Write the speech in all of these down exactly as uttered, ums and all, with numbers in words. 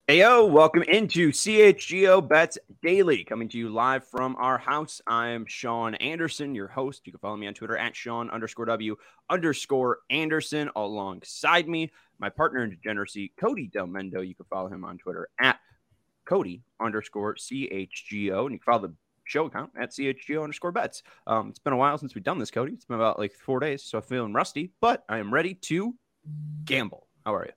Heyo, welcome into C H G O Bets Daily, coming to you live from our house. I'm Sean Anderson, your host. You can follow me on Twitter at Sean underscore W underscore Anderson. Alongside me, my partner in degeneracy, Cody Del Mendo. You can follow him on Twitter at Cody underscore C H G O. And you can follow the show account at C H G O underscore bets. Um, it's been a while since we've done this, Cody. It's been about like four days, so I'm feeling rusty, but I am ready to gamble. How are you?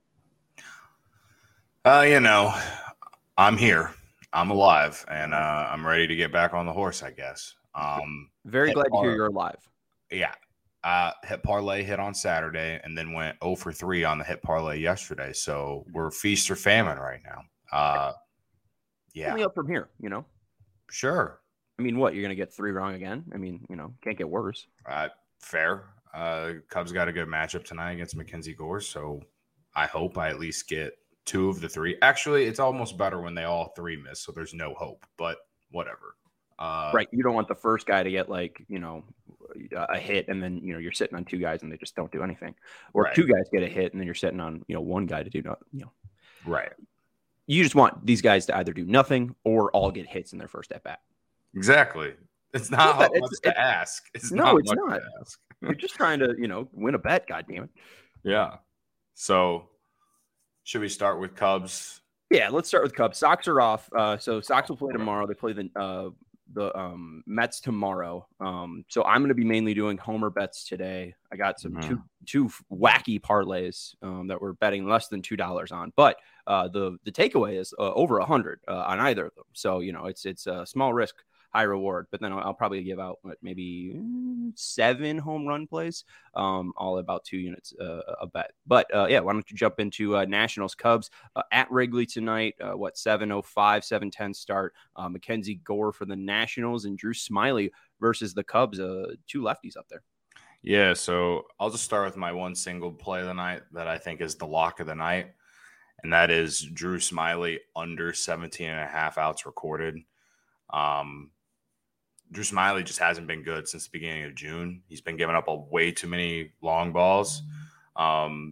Uh, you know, I'm here. I'm alive, and uh, I'm ready to get back on the horse, I guess. Um, Very glad par- to hear you're alive. Yeah. Uh, hit parlay hit on Saturday and then went oh for three on the hit parlay yesterday. So we're feast or famine right now. Uh, yeah. Only up from here, you know? Sure. I mean, what? You're going to get three wrong again? I mean, you know, can't get worse. Uh, fair. Uh, Cubs got a good matchup tonight against Mackenzie Gore. So I hope I at least get two of the three. Actually, it's almost better when they all three miss, so there's no hope, but whatever. Uh, right. You don't want the first guy to get like, you know, a hit and then, you know, you're sitting on two guys and they just don't do anything. Or right. two guys get a hit and then you're sitting on, you know, one guy to do nothing, you know. Right. You just want these guys to either do nothing or all get hits in their first at bat. Exactly. It's not yeah, much it's, to it's, ask. It's no, not it's not. You're just trying to, you know, win a bet, goddammit. Yeah. So should we start with Cubs? Yeah, let's start with Cubs. Sox are off. Uh, so Sox will play tomorrow. They play the uh, the um, Mets tomorrow. Um, so I'm going to be mainly doing homer bets today. I got some mm-hmm. two two wacky parlays um, that we're betting less than two dollars on, but uh, the the takeaway is uh, over a hundred uh, on either of them. So you know it's it's a small risk, high reward. But then I'll, I'll probably give out what, maybe seven home run plays, um, all about two units uh, a bet. But uh, yeah, why don't you jump into uh, Nationals Cubs uh, at Wrigley tonight? Uh, what seven oh five, seven ten start. Uh, Mackenzie Gore for the Nationals and Drew Smiley versus the Cubs. Uh, two lefties up there. Yeah, so I'll just start with my one single play of the night that I think is the lock of the night, and that is Drew Smiley under seventeen and a half outs recorded. Um, Drew Smiley just hasn't been good since the beginning of June. He's been giving up a way too many long balls. Um,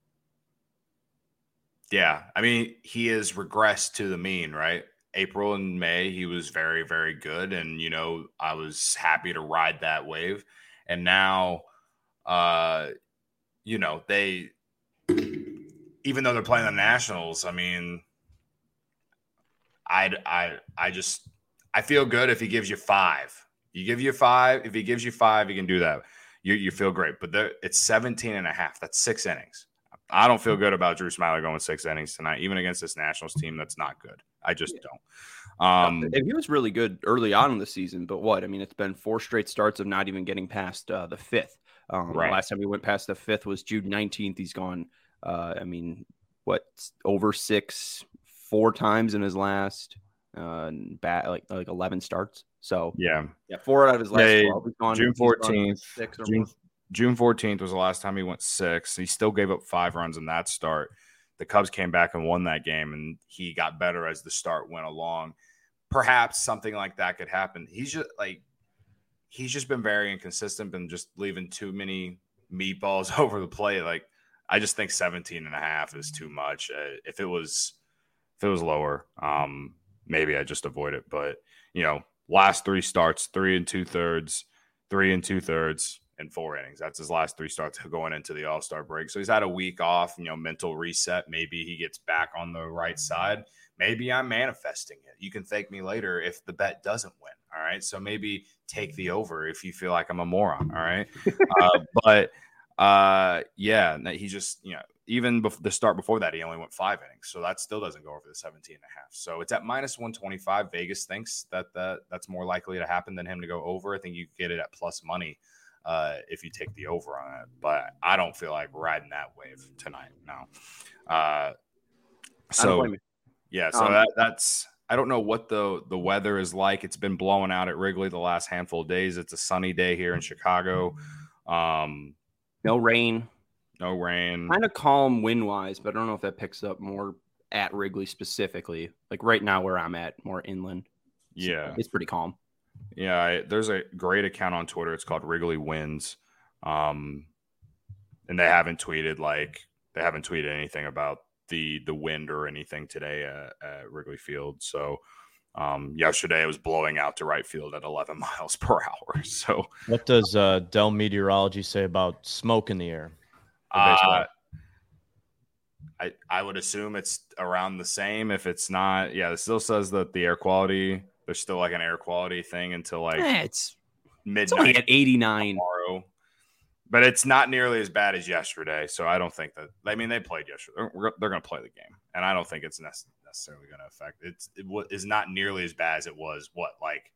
yeah, I mean, he has regressed to the mean, right? April and May, he was very, very good. And, you know, I was happy to ride that wave. And now, uh, you know, they, even though they're playing the Nationals, I mean, I, I, I just, I feel good if he gives you five. You give you five. If he gives you five, you can do that. You you feel great. But there, it's seventeen and a half. That's six innings. I don't feel good about Drew Smiley going six innings tonight, even against this Nationals team that's not good. I just yeah. don't. Um, and he was really good early on in the season, but what? I mean, it's been four straight starts of not even getting past uh, the fifth. Um, right. Last time he went past the fifth was June nineteenth. He's gone, uh, I mean, what, over six, four times in his last – uh bat like like eleven starts. So yeah yeah four out of his last yeah, twelve. He's gone, June fourteenth six or June, June fourteenth was the last time he went six. He still gave up five runs in that start. The Cubs came back and won that game, and he got better as the start went along. Perhaps something like that could happen. He's just like he's just been very inconsistent, been just leaving too many meatballs over the plate. Like I just think seventeen and a half is too much. Uh, if it was if it was lower, um maybe I just avoid it. But, you know, last three starts, three and two thirds, three and two thirds, and four innings. That's his last three starts going into the All-Star break. So he's had a week off, you know, mental reset. Maybe he gets back on the right side. Maybe I'm manifesting it. You can thank me later if the bet doesn't win. All right. So maybe take the over if you feel like I'm a moron. All right. uh, but uh, yeah, he just, you know, even before the start before that, he only went five innings. So that still doesn't go over the seventeen and a half. So it's at minus one twenty-five. Vegas thinks that, that that's more likely to happen than him to go over. I think you get it at plus money uh, if you take the over on it. But I don't feel like riding that wave tonight. No. Uh, so, yeah, so um, that, that's – I don't know what the, the weather is like. It's been blowing out at Wrigley the last handful of days. It's a sunny day here in Chicago. Um, no rain. No rain. Kind of calm wind-wise, but I don't know if that picks up more at Wrigley specifically. Like right now where I'm at, more inland. Yeah. So it's pretty calm. Yeah, I, there's a great account on Twitter. It's called Wrigley Winds. Um, and they haven't tweeted like they haven't tweeted anything about the the wind or anything today at, at Wrigley Field. So um, yesterday it was blowing out to right field at eleven miles per hour. So what does uh, Dell Meteorology say about smoke in the air for uh, baseball? I, I would assume it's around the same. If it's not, yeah, it still says that the air quality, there's still like an air quality thing until like eh, it's midnight. It's only at eighty-nine tomorrow. But it's not nearly as bad as yesterday. So I don't think that, I mean, they played yesterday. They're, they're going to play the game. And I don't think it's necessarily going to affect it's it is not nearly as bad as it was. What, like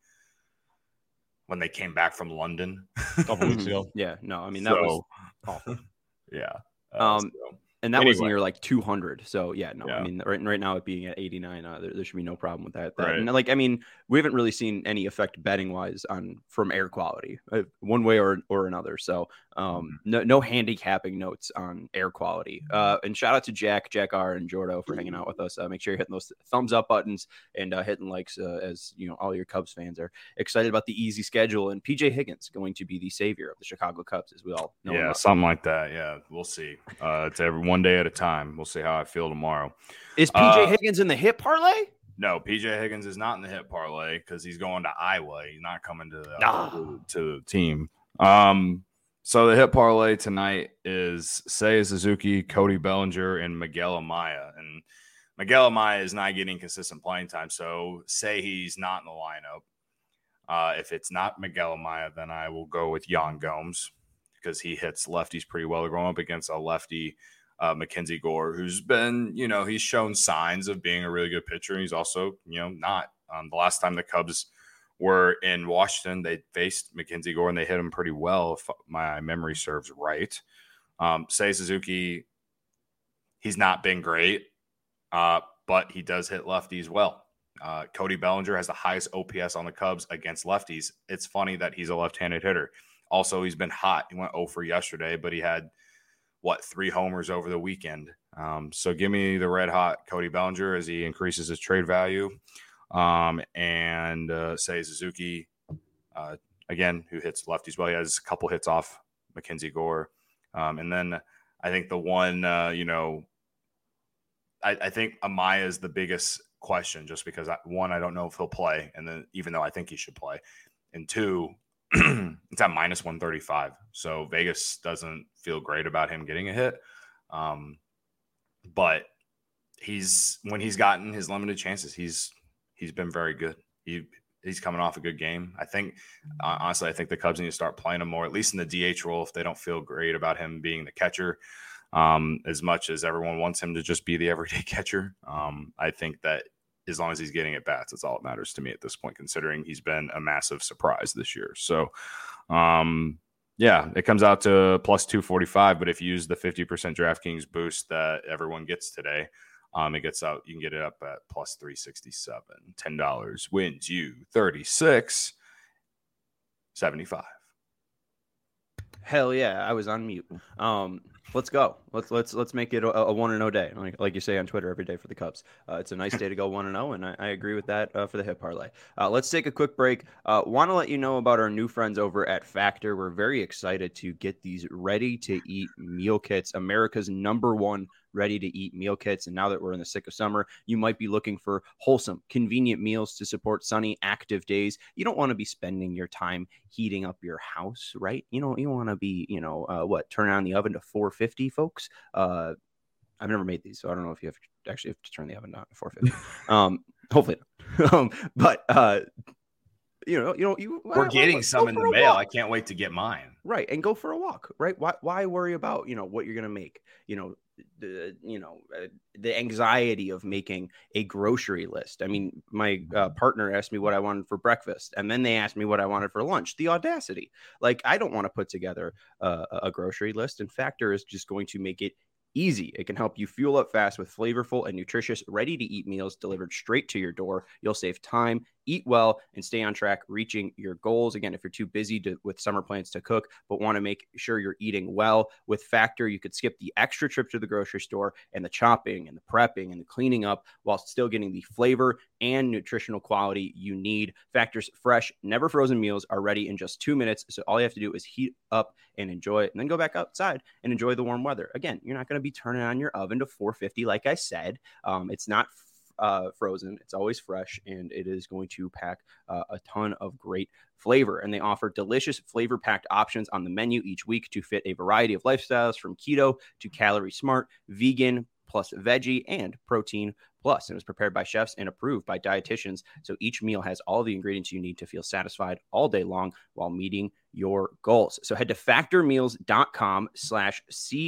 when they came back from London a couple weeks ago? Yeah, no, I mean, that so, was awful. Yeah. Uh, um, so. And that anyway. was near like two hundred. So, yeah, no, yeah. I mean, right, right now it being at eighty-nine, uh, there, there should be no problem with that. that right. And like, I mean, we haven't really seen any effect betting wise on from air quality uh, one way or, or another. So, um, no, no handicapping notes on air quality. Uh, and shout out to Jack, Jack R, and Jordo for hanging out with us. Uh, make sure you're hitting those thumbs up buttons and uh, hitting likes uh, as you know, all your Cubs fans are excited about the easy schedule. And P J Higgins going to be the savior of the Chicago Cubs, as we all know. Yeah, something like that. Yeah, we'll see. Uh, it's every one day at a time. We'll see how I feel tomorrow. Is P J uh, Higgins in the hit parlay? No, P J Higgins is not in the hit parlay because he's going to Iowa. He's not coming to the, ah. to, to the team. Um, so the hit parlay tonight is Seiya Suzuki, Cody Bellinger, and Miguel Amaya. And Miguel Amaya is not getting consistent playing time, so say he's not in the lineup. Uh, if it's not Miguel Amaya, then I will go with Yan Gomes because he hits lefties pretty well. They're going up against a lefty, uh, Mackenzie Gore, who's been, you know, he's shown signs of being a really good pitcher. He's also, you know, not. Um, the last time the Cubs were in Washington, they faced Mackenzie Gore and they hit him pretty well, if my memory serves right. Um, Seiya Suzuki, he's not been great, uh, but he does hit lefties well. Uh, Cody Bellinger has the highest O P S on the Cubs against lefties. It's funny that he's a left-handed hitter. Also, he's been hot. He went oh for yesterday, but he had, what, three homers over the weekend. Um, so give me the red-hot Cody Bellinger as he increases his trade value. Um, and uh, Seiya Suzuki, uh, again, who hits lefties well. He has a couple hits off Mackenzie Gore. Um, and then I think the one, uh, you know, I, I think Amaya is the biggest question just because, I, one, I don't know if he'll play. And then even though I think he should play. And two, it's at minus one thirty-five. So Vegas doesn't feel great about him getting a hit. Um, but he's when he's gotten his limited chances, he's he's been very good. He he's coming off a good game. I think uh, honestly, I think the Cubs need to start playing him more, at least in the D H role, if they don't feel great about him being the catcher. Um, as much as everyone wants him to just be the everyday catcher, um, I think that as long as he's getting at bats, that's all that matters to me at this point, considering he's been a massive surprise this year. So, um, yeah, it comes out to plus two forty-five. But if you use the fifty percent DraftKings boost that everyone gets today, um, it gets out. You can get it up at plus three sixty-seven. ten dollars wins you thirty-six seventy-five. Hell yeah, I was on mute. Um, let's go. Let's let's let's make it a, a one and zero day, like like you say on Twitter every day for the Cubs. Uh, it's a nice day to go one and zero, and I, I agree with that uh, for the hit parlay. Uh, let's take a quick break. Uh, Want to let you know about our new friends over at Factor. We're very excited to get these ready to eat meal kits, America's number one ready to eat meal kits. And now that we're in the thick of summer, you might be looking for wholesome, convenient meals to support sunny, active days. You don't want to be spending your time heating up your house, right? You know, you want to be, you know, uh, what, turn on the oven to four fifty, folks. Uh, I've never made these, so I don't know if you have to actually have to turn the oven down to four fifty. um, hopefully not. um, but, uh, you know, you know, you we're getting well, some in the mail. Walk. I can't wait to get mine. Right. And go for a walk, right? Why, why worry about, you know, what you're going to make, you know, the, you know, uh, the anxiety of making a grocery list. I mean, my uh, partner asked me what I wanted for breakfast, and then they asked me what I wanted for lunch. The audacity. Like, I don't want to put together uh, a grocery list, and Factor is just going to make it easy. It can help you fuel up fast with flavorful and nutritious, ready-to-eat meals delivered straight to your door. You'll save time, eat well, and stay on track reaching your goals. Again, if you're too busy to, with summer plans to cook, but want to make sure you're eating well, with Factor, you could skip the extra trip to the grocery store and the chopping and the prepping and the cleaning up while still getting the flavor and nutritional quality you need. Factor's fresh, never frozen meals are ready in just two minutes. So all you have to do is heat up and enjoy it, and then go back outside and enjoy the warm weather. Again, you're not going to to be turning on your oven to four fifty, like I said. Um, it's not uh, frozen. It's always fresh, and it is going to pack uh, a ton of great flavor. And they offer delicious flavor-packed options on the menu each week to fit a variety of lifestyles, from keto to calorie smart, vegan, plus veggie, and protein plus. And it was prepared by chefs and approved by dietitians. So each meal has all the ingredients you need to feel satisfied all day long while meeting your goals. So head to factormeals.com slash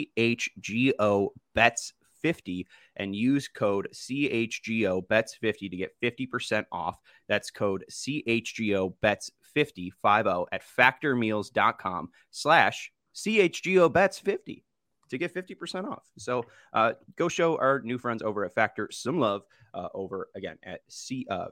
CHGO bets 50 and use code C H G O bets fifty to get fifty percent off. That's code C H G O bets fifty, fifty at factormeals.com slash C H G O bets 50 to get fifty percent off. So uh, go show our new friends over at Factor some love uh, over again at C, uh,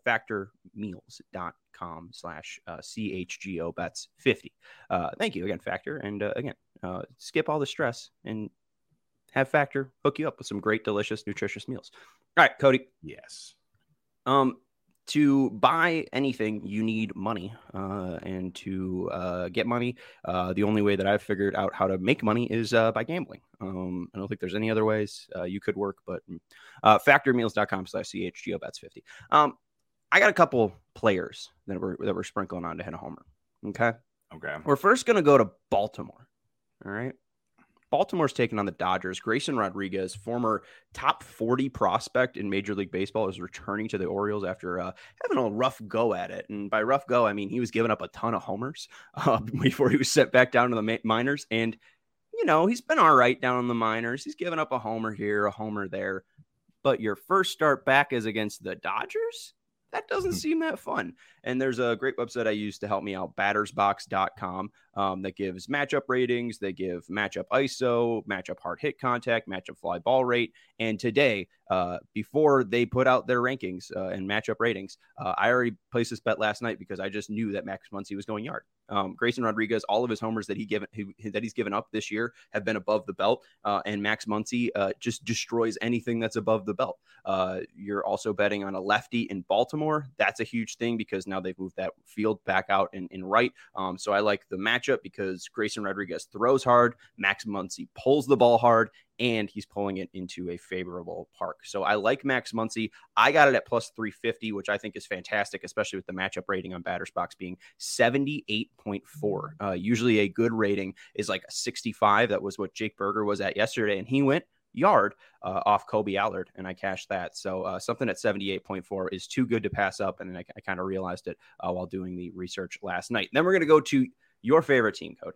factormeals.com slash C H G O bets 50. Uh, thank you again, Factor. And uh, again, uh, skip all the stress and have Factor hook you up with some great, delicious, nutritious meals. All right, Cody. Yes. Um, to buy anything, you need money. Uh, and to uh, get money, uh, the only way that I've figured out how to make money is uh, by gambling. Um, I don't think there's any other ways uh, you could work, but uh, factormeals.com slash CHGO bets 50. Um, I got a couple players that we're, that we're sprinkling on to hit a homer. Okay. Okay. We're first going to go to Baltimore. All right. Baltimore's taking on the Dodgers. Grayson Rodriguez, former top forty prospect in Major League Baseball, is returning to the Orioles after uh, having a rough go at it. And by rough go, I mean he was giving up a ton of homers uh, before he was sent back down to the minors. And, you know, he's been all right down in the minors. He's given up a homer here, a homer there. But your first start back is against the Dodgers? That doesn't seem that fun. And there's a great website I use to help me out, battersbox dot com, um, that gives matchup ratings. They give matchup I S O, matchup hard hit contact, matchup fly ball rate. And today, uh, before they put out their rankings uh, and matchup ratings, uh, I already placed this bet last night because I just knew that Max Muncy was going yard. Um, Grayson Rodriguez, all of his homers that he given he, that he's given up this year have been above the belt, uh, and Max Muncy uh, just destroys anything that's above the belt. Uh, you're also betting on a lefty in Baltimore. That's a huge thing because now they've moved that field back out in, in right. Um, so I like the matchup because Grayson Rodriguez throws hard, Max Muncy pulls the ball hard, and he's pulling it into a favorable park. So I like Max Muncy. I got it at plus three fifty, which I think is fantastic, especially with the matchup rating on BattersBox being seventy-eight point four. Uh, usually a good rating is like a sixty-five. That was what Jake Berger was at yesterday, and he went yard uh, off Kobe Allard, and I cashed that. So uh, something at seventy-eight point four is too good to pass up, and I, I kind of realized it uh, while doing the research last night. Then we're going to go to your favorite team, Cody.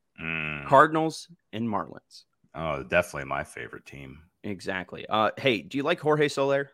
Mm. Cardinals and Marlins. Oh, definitely my favorite team. Exactly. Uh, hey, do you like Jorge Soler?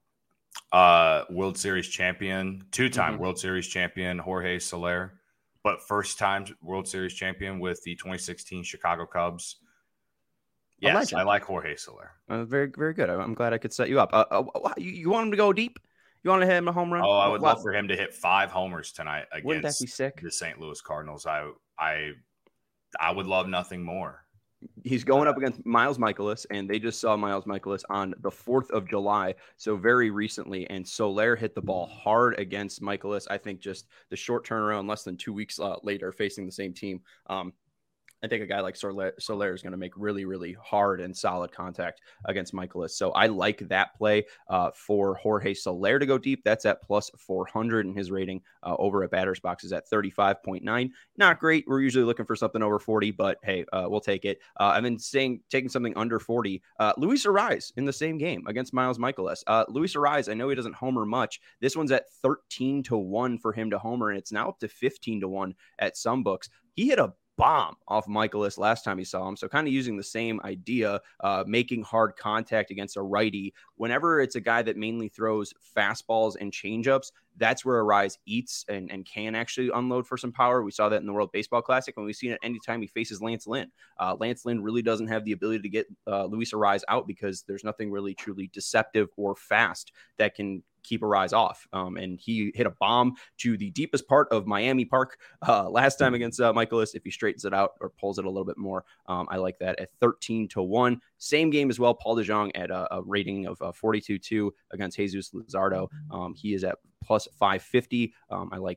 Uh, World Series champion, two-time Mm-hmm. World Series champion, Jorge Soler, but first-time World Series champion with the twenty sixteen Chicago Cubs. Yes, I like Jorge Soler. Uh, very, very good. I'm glad I could set you up. Uh, uh, you, you want him to go deep? You want to hit him a home run? Oh, I would well, love for him to hit five homers tonight wouldn't that against be sick? the Saint Louis Cardinals. I, I, I would love nothing more. He's going up against Miles Michaelis, and they just saw Miles Michaelis on the fourth of July, so very recently, and Soler hit the ball hard against Michaelis. I think just the short turnaround, less than two weeks uh, later, facing the same team. Um, I think a guy like Soler, Soler is going to make really, really hard and solid contact against Michaelis. So I like that play uh, for Jorge Soler to go deep. That's at plus four hundred, and his rating uh, over at BattersBox is at thirty-five point nine. Not great. We're usually looking for something over forty, but hey, uh, we'll take it. Uh, I've been saying taking something under forty. Uh, Luis Arraez in the same game against Miles Michaelis. Uh, Luis Arraez, I know he doesn't homer much. This one's at thirteen to one for him to homer, and it's now up to fifteen to one at some books. He hit a bomb off Michaelis last time he saw him. So kind of using the same idea, uh, making hard contact against a righty. Whenever it's a guy that mainly throws fastballs and changeups, that's where Arraez eats and, and can actually unload for some power. We saw that in the World Baseball Classic, and we've seen it anytime he faces Lance Lynn. Uh, Lance Lynn really doesn't have the ability to get uh, Luis Arraez out because there's nothing really truly deceptive or fast that can keep Arraez off. Um, and he hit a bomb to the deepest part of Miami Park uh, last time against uh, Michaelis. If he straightens it out or pulls it a little bit more, um, I like that at thirteen to one. Same game as well. Paul DeJong at a, a rating of uh, forty-two two against Jesus Luzardo. Um, he is at plus five fifty. Um, I like that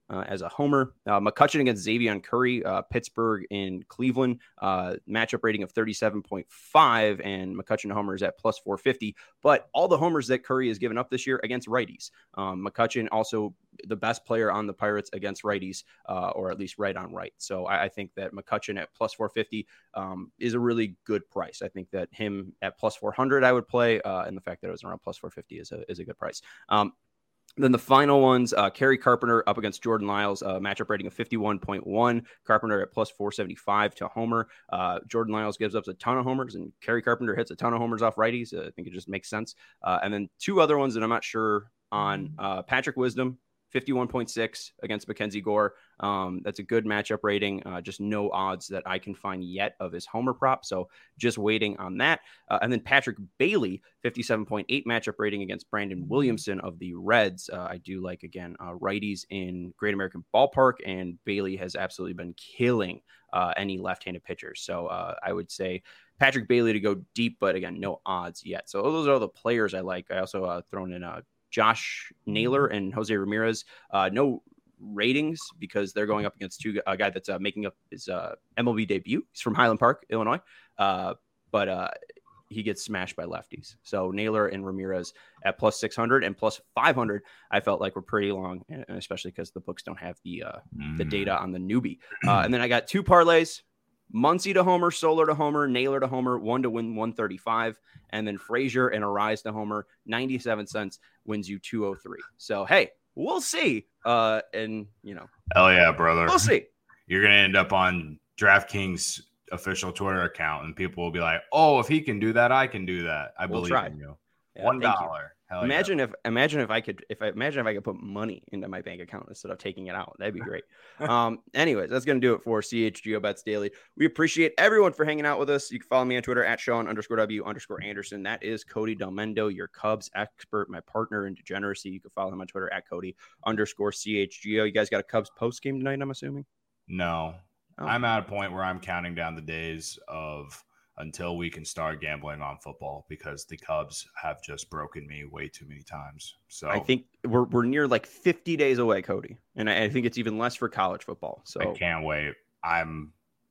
Uh, as a homer. Uh, McCutchen against Xavier Curry, uh, Pittsburgh in Cleveland, uh, matchup rating of thirty-seven point five, and McCutchen homers at plus four fifty. But all the homers that Curry has given up this year against righties. Um, McCutchen also the best player on the Pirates against righties, uh, or at least right on right. So I, I think that McCutchen at plus four fifty um, is a really good price. I think that him at plus four hundred I would play, uh, and the fact that it was around plus four fifty is a, is a good price. Um, Then the final ones, uh, Kerry Carpenter up against Jordan Lyles, uh, matchup rating of fifty-one point one. Carpenter at plus four seventy-five to homer. Uh, Jordan Lyles gives up a ton of homers, and Kerry Carpenter hits a ton of homers off righties. Uh, I think it just makes sense. Uh, and then two other ones that I'm not sure on. Uh, Patrick Wisdom, fifty-one point six against Mackenzie Gore. Um, that's a good matchup rating. Uh, just no odds that I can find yet of his homer prop. So just waiting on that. Uh, and then Patrick Bailey, fifty-seven point eight matchup rating against Brandon Williamson of the Reds. Uh, I do like, again, uh, righties in Great American Ballpark, and Bailey has absolutely been killing uh, any left-handed pitchers. So uh, I would say Patrick Bailey to go deep, but again, no odds yet. So those are all the players I like. I also uh, thrown in a Josh Naylor and Jose Ramirez. Uh, no ratings because they're going up against two a guy that's uh, making up his uh, M L B debut. He's from Highland Park, Illinois, uh, but uh, he gets smashed by lefties. So Naylor and Ramirez at plus six hundred and plus five hundred, I felt like were pretty long, and especially because the books don't have the uh, mm. the data on the newbie. Uh, and then I got two parlays. Muncy to homer, Solar to homer, Naylor to homer, one to win one thirty-five, and then Frazier and Arise to homer, ninety-seven cents wins you two oh three. So, hey, we'll see. Uh, and, you know. Hell yeah, brother. We'll see. You're going to end up on DraftKings official Twitter account, and people will be like, oh, if he can do that, I can do that. I we'll believe try. in you. Yeah, One dollar. Hell imagine yeah. if imagine if I could if I imagine if I could put money into my bank account instead of taking it out. That'd be great. um, anyways, that's gonna do it for C H G O Bets Daily. We appreciate everyone for hanging out with us. You can follow me on Twitter at Sean underscore W underscore Anderson. That is Cody Delmendo, your Cubs expert, my partner in degeneracy. You can follow him on Twitter at Cody underscore C H G O. You guys got a Cubs post game tonight, I'm assuming? No. Oh. I'm at a point where I'm counting down the days of until we can start gambling on football because the Cubs have just broken me way too many times. So I think we're we're near like fifty days away, Cody, and I, I think it's even less for college football. So I can't wait. I'm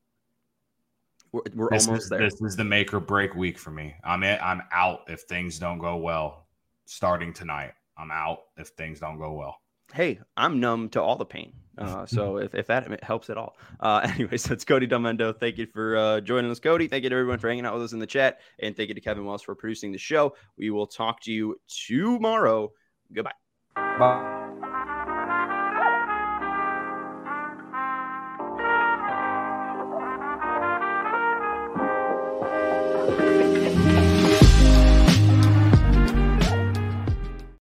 we're, we're this almost is, there. This is the make or break week for me. I'm in, I'm out if things don't go well. Starting tonight, I'm out if things don't go well. Hey, I'm numb to all the pain. Uh, so if, if that helps at all. Uh, anyways, that's Cody Delmendo. Thank you for uh, joining us, Cody. Thank you to everyone for hanging out with us in the chat. And thank you to Kevin Wells for producing the show. We will talk to you tomorrow. Goodbye. Bye.